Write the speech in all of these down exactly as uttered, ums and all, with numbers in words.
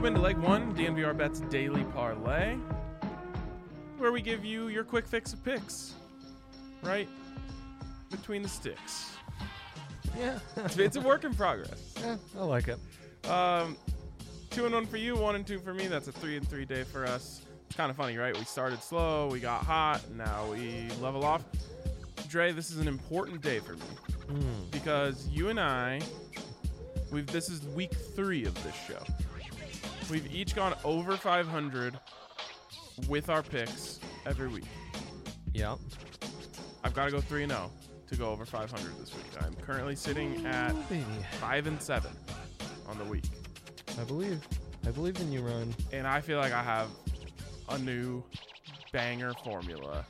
into Leg one, D N V R Bets Daily Parlay, where we give you your quick fix of picks, right between the sticks. Yeah. It's a work in progress. Yeah, I like it. Um, two and one for you, one and two for me. That's a three and three day for us. It's kind of funny, right? We started slow, we got hot, now we level off. Dre, this is an important day for me Mm. because you and I, we've this is week three of this show. We've each gone over five hundred with our picks every week. Yeah. I've got to go three and zero to go over five hundred this week. I'm currently sitting at Oh, baby. five and seven on the week, I believe. I believe in you, Ryan. and I feel like I have a new banger formula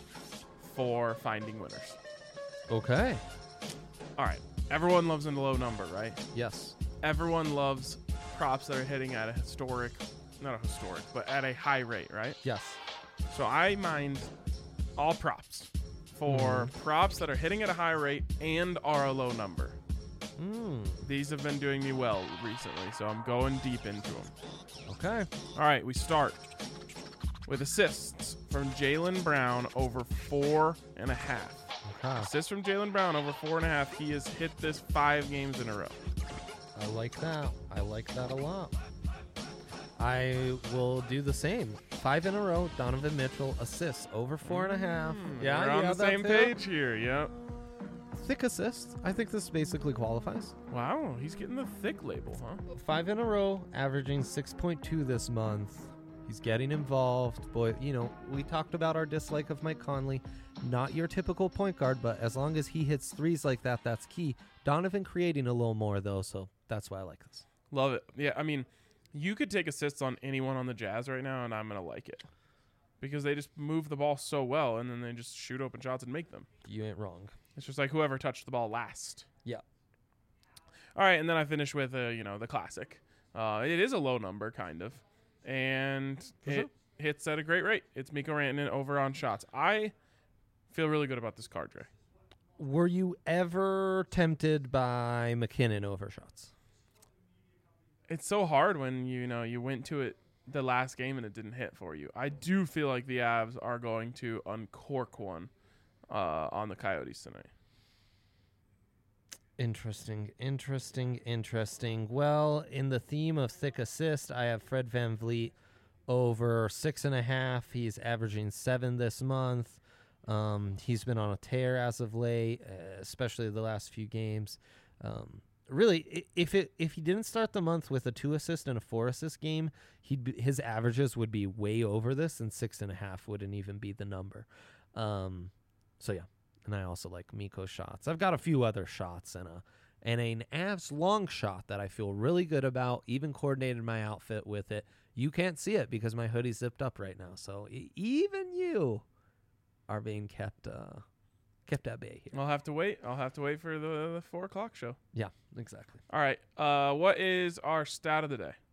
for finding winners. Okay. All right, everyone loves a low number, right? Yes. Everyone loves props that are hitting at a historic, not a historic, but at a high rate, right? Yes. So I mined all props for Mhm. props that are hitting at a high rate and are a low number. Mm. These have been doing me well recently, so I'm going deep into them. Okay. All right, we start with assists from Jaylen Brown over four and a half. Okay. Assists from Jaylen Brown over four and a half. He has hit this five games in a row. I like that. I like that a lot. I will do the same. Five in a row. Donovan Mitchell assists over four and a half. Yeah, we're you on the have that same too? page here. Yep. Thick assists. I think this basically qualifies. Wow, he's getting the thick label, huh? Five in a row, averaging six point two this month. He's getting involved. Boy, you know, we talked about our dislike of Mike Conley. Not your typical point guard, but as long as he hits threes like that, that's key. Donovan creating a little more, though, so that's why I like this. Love it. Yeah, I mean, you could take assists on anyone on the Jazz right now, and I'm going to like it. Because they just move the ball so well, and then they just shoot open shots and make them. You ain't wrong. It's just like whoever touched the ball last. Yeah. All right, and then I finish with, uh, you know, the classic. Uh, it is a low number, kind of. And For it sure. hits at a great rate. It's Miko Rantanen over on shots. I feel really good about this card, Dre. Were you ever tempted by McKinnon over shots? It's so hard when, you know, you went to it the last game and it didn't hit for you. I do feel like the Avs are going to uncork one uh, on the Coyotes tonight. Interesting, interesting, interesting. Well, in the theme of thick assist, I have Fred VanVleet over six and a half. He's averaging seven this month. Um, he's been on a tear as of late, uh, especially the last few games. Um, really, i- if it if he didn't start the month with a two assist and a four assist game, he'd be, his averages would be way over this, and six and a half wouldn't even be the number. Um, so yeah. And I also like Miko shots. I've got a few other shots and a and an Avs long shot that I feel really good about. Even coordinated my outfit with it. You can't see it because my hoodie's zipped up right now. So e- even you are being kept uh, kept at bay here. I'll have to wait. I'll have to wait for the, the four o'clock show. Yeah, exactly. All right. Uh, what is our stat of the day?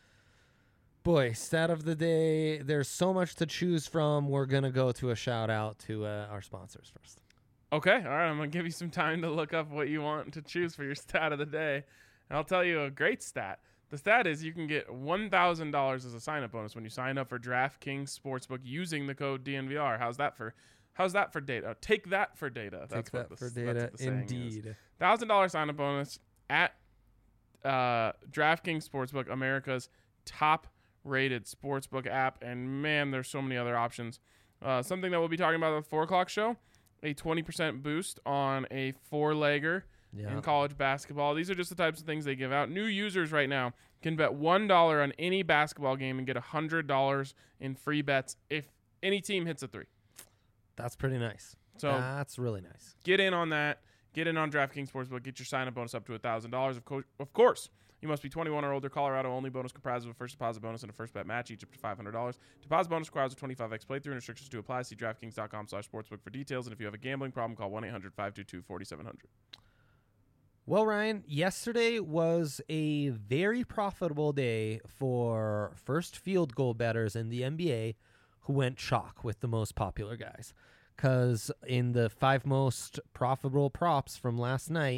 Boy, stat of the day. There's so much to choose from. We're gonna go to a shout out to uh, our sponsors first. Okay. All right. I'm going to give you some time to look up what you want to choose for your stat of the day. And I'll tell you a great stat. The stat is you can get one thousand dollars as a sign-up bonus when you sign up for DraftKings Sportsbook using the code D N V R. How's that for How's that for data? Take that for data. That's Take what that the, for data. that's what the saying is. Indeed. one thousand dollars sign-up bonus at uh, DraftKings Sportsbook, America's top-rated sportsbook app. And, man, there's so many other options. Uh, something that we'll be talking about at the four o'clock show, a twenty percent boost on a four-legger Yeah. in college basketball. These are just the types of things they give out. New users right now can bet one dollar on any basketball game and get one hundred dollars in free bets if any team hits a three. That's pretty nice. So That's really nice. get in on that. Get in on DraftKings Sportsbook. Get your sign-up bonus up to one thousand dollars. Of, co- of course, you must be twenty-one or older. Colorado only. Bonus comprised of a first deposit bonus and a first bet match, each up to five hundred dollars. Deposit bonus requires a twenty-five x playthrough and restrictions to apply. See DraftKings.com slash sportsbook for details. And if you have a gambling problem, call one eight hundred five two two four seven zero zero. Well, Ryan, yesterday was a very profitable day for first field goal bettors in the N B A who went chalk with the most popular guys. Because in the five most profitable props from last night,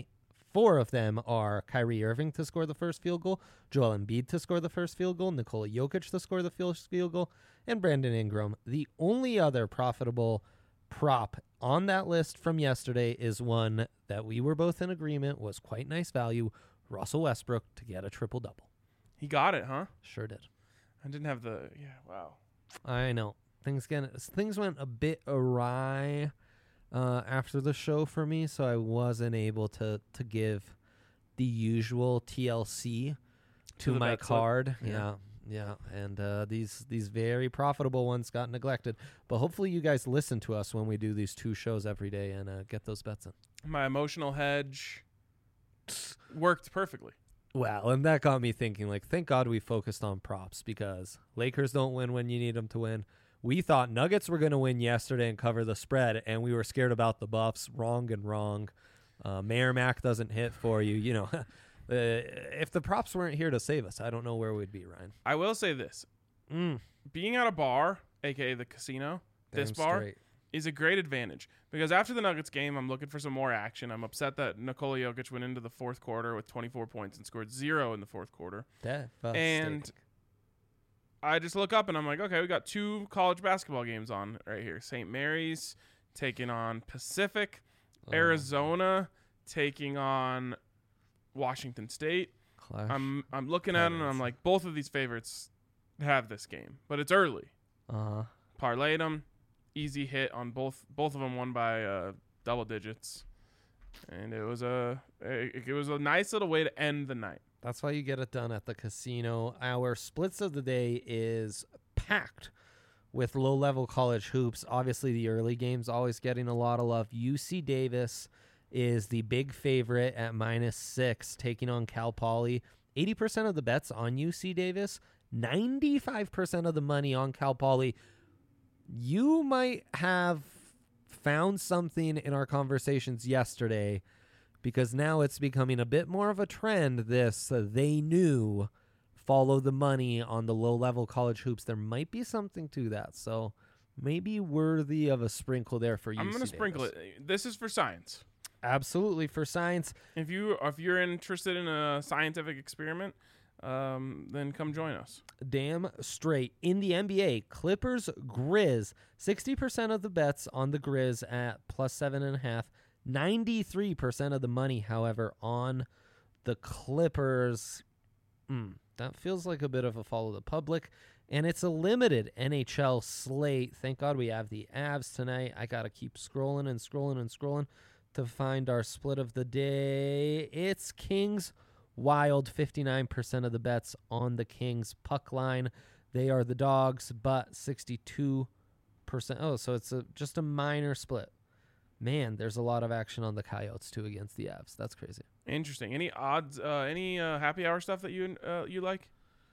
four of them are Kyrie Irving to score the first field goal, Joel Embiid to score the first field goal, Nikola Jokic to score the first field goal, and Brandon Ingram. The only other profitable prop on that list from yesterday is one that we were both in agreement was quite nice value, Russell Westbrook to get a triple-double. He got it, huh? Sure did. I didn't have the, yeah, wow. I know. Things get, things went a bit awry uh, after the show for me, so I wasn't able to, to give the usual T L C to, To the my bet slip. card. Yeah. Yeah. Yeah, and uh, these these very profitable ones got neglected. But hopefully you guys listen to us when we do these two shows every day and uh, get those bets in. My emotional hedge worked perfectly. Wow, and that got me thinking, like, thank God we focused on props because Lakers don't win when you need them to win. We thought Nuggets were going to win yesterday and cover the spread, and we were scared about the Buffs. Wrong and wrong. Uh, Mayor Mac doesn't hit for you. You know, uh, if the props weren't here to save us, I don't know where we'd be, Ryan. I will say this. Mm, Being at a bar, a k a the casino, this damn bar, straight. is a great advantage because after the Nuggets game, I'm looking for some more action. I'm upset that Nikola Jokic went into the fourth quarter with twenty-four points and scored zero in the fourth quarter. Devastating. And I just look up and I'm like, okay, we got two college basketball games on right here. Saint Mary's taking on Pacific, Oh, Arizona taking on Washington State. clash. I'm I'm looking at them and I'm Heavens. like, both of these favorites have this game, but it's early. Uh-huh. Parlayed them, easy hit on both. Both of them won by uh, double digits, and it was a it, it was a nice little way to end the night. That's why you get it done at the casino. Our splits of the day is packed with low-level college hoops. Obviously, the early games always getting a lot of love. U C Davis is the big favorite at minus six, taking on Cal Poly. eighty percent of the bets on U C Davis, ninety-five percent of the money on Cal Poly. You might have found something in our conversations yesterday because now it's becoming a bit more of a trend, this uh, they knew follow the money on the low-level college hoops. There might be something to that, so maybe worthy of a sprinkle there for you. I'm gonna sprinkle it. This is for science. Absolutely, for science. If you if you're interested in a scientific experiment, um, then come join us. Damn straight. In the N B A, Clippers, Grizz, sixty percent of the bets on the Grizz at plus seven and a half. ninety-three percent of the money, however, on the Clippers. Mm, that feels like a bit of a follow the public. And it's a limited N H L slate. Thank God we have the Avs tonight. I got to keep scrolling and scrolling and scrolling to find our split of the day. It's Kings Wild, fifty-nine percent of the bets on the Kings puck line. They are the dogs, but sixty-two percent. Oh, so it's a, just a minor split. Man, there's a lot of action on the Coyotes, too, against the Avs. That's crazy. Interesting. Any odds? Uh, any uh, happy hour stuff that you uh, you like?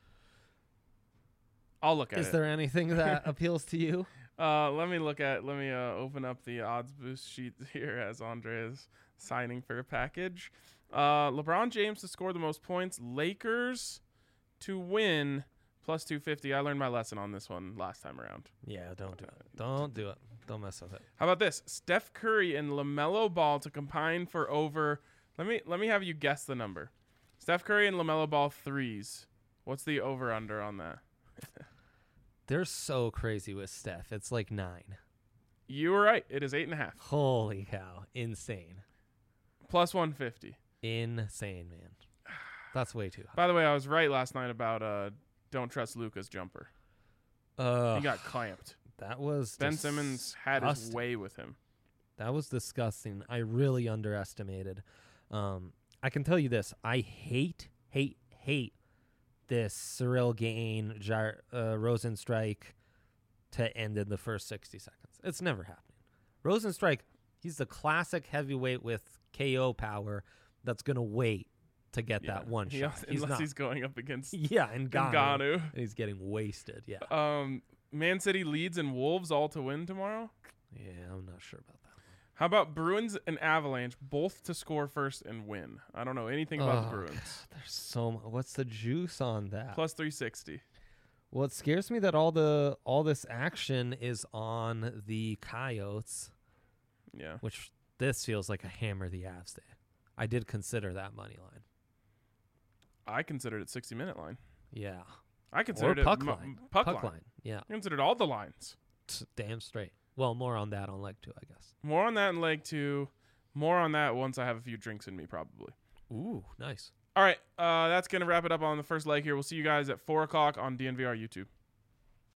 I'll look at Is it. there anything that appeals to you? Uh, let me look at. Let me uh, open up the odds boost sheet here as Andre is signing for a package. Uh, LeBron James to score the most points. Lakers to win plus two fifty. I learned my lesson on this one last time around. Yeah, don't do it. Don't do it. Don't mess with it. How about this? Steph Curry and LaMelo Ball to combine for over. Let me let me have you guess the number. Steph Curry and LaMelo Ball threes. What's the over under on that? They're so crazy with Steph. It's like nine. You were right. It is eight and a half. Holy cow. Insane. Plus one fifty. Insane, man. That's way too high. By the way, I was right last night about uh, don't trust Luka's jumper. Uh, He got clamped. that was Ben Simmons had his disgusting. way with him. That was disgusting. I really underestimated. Um, I can tell you this. I hate, hate, hate this Cyril Gain, Jar- uh, Rosenstrike to end in the first sixty seconds. It's never happening. Rosenstrike, he's the classic heavyweight with K O power that's going to wait to get Yeah. that one He shot. also- He's unless not. he's going up against yeah, and Ngannou. Ngannou. And he's getting wasted. Yeah. Um, Man City leads and Wolves all to win tomorrow. Yeah, I'm not sure about that. How about Bruins and Avalanche both to score first and win? I don't know anything about the Oh, Bruins. There's so much. What's the juice on that? Plus three sixty. Well, it scares me that all the all this action is on the Coyotes, Yeah. which this feels like a hammer the Avs day. I did consider that money line. I considered it sixty minute line. Yeah. I considered or puck it line. m- puck, puck line. line. Yeah. I considered all the lines. Damn straight. Well, more on that on leg two, I guess. More on that in leg two. More on that once I have a few drinks in me, probably. Ooh, nice. All right, uh, that's going to wrap it up on the first leg here. We'll see you guys at four o'clock on D N V R YouTube.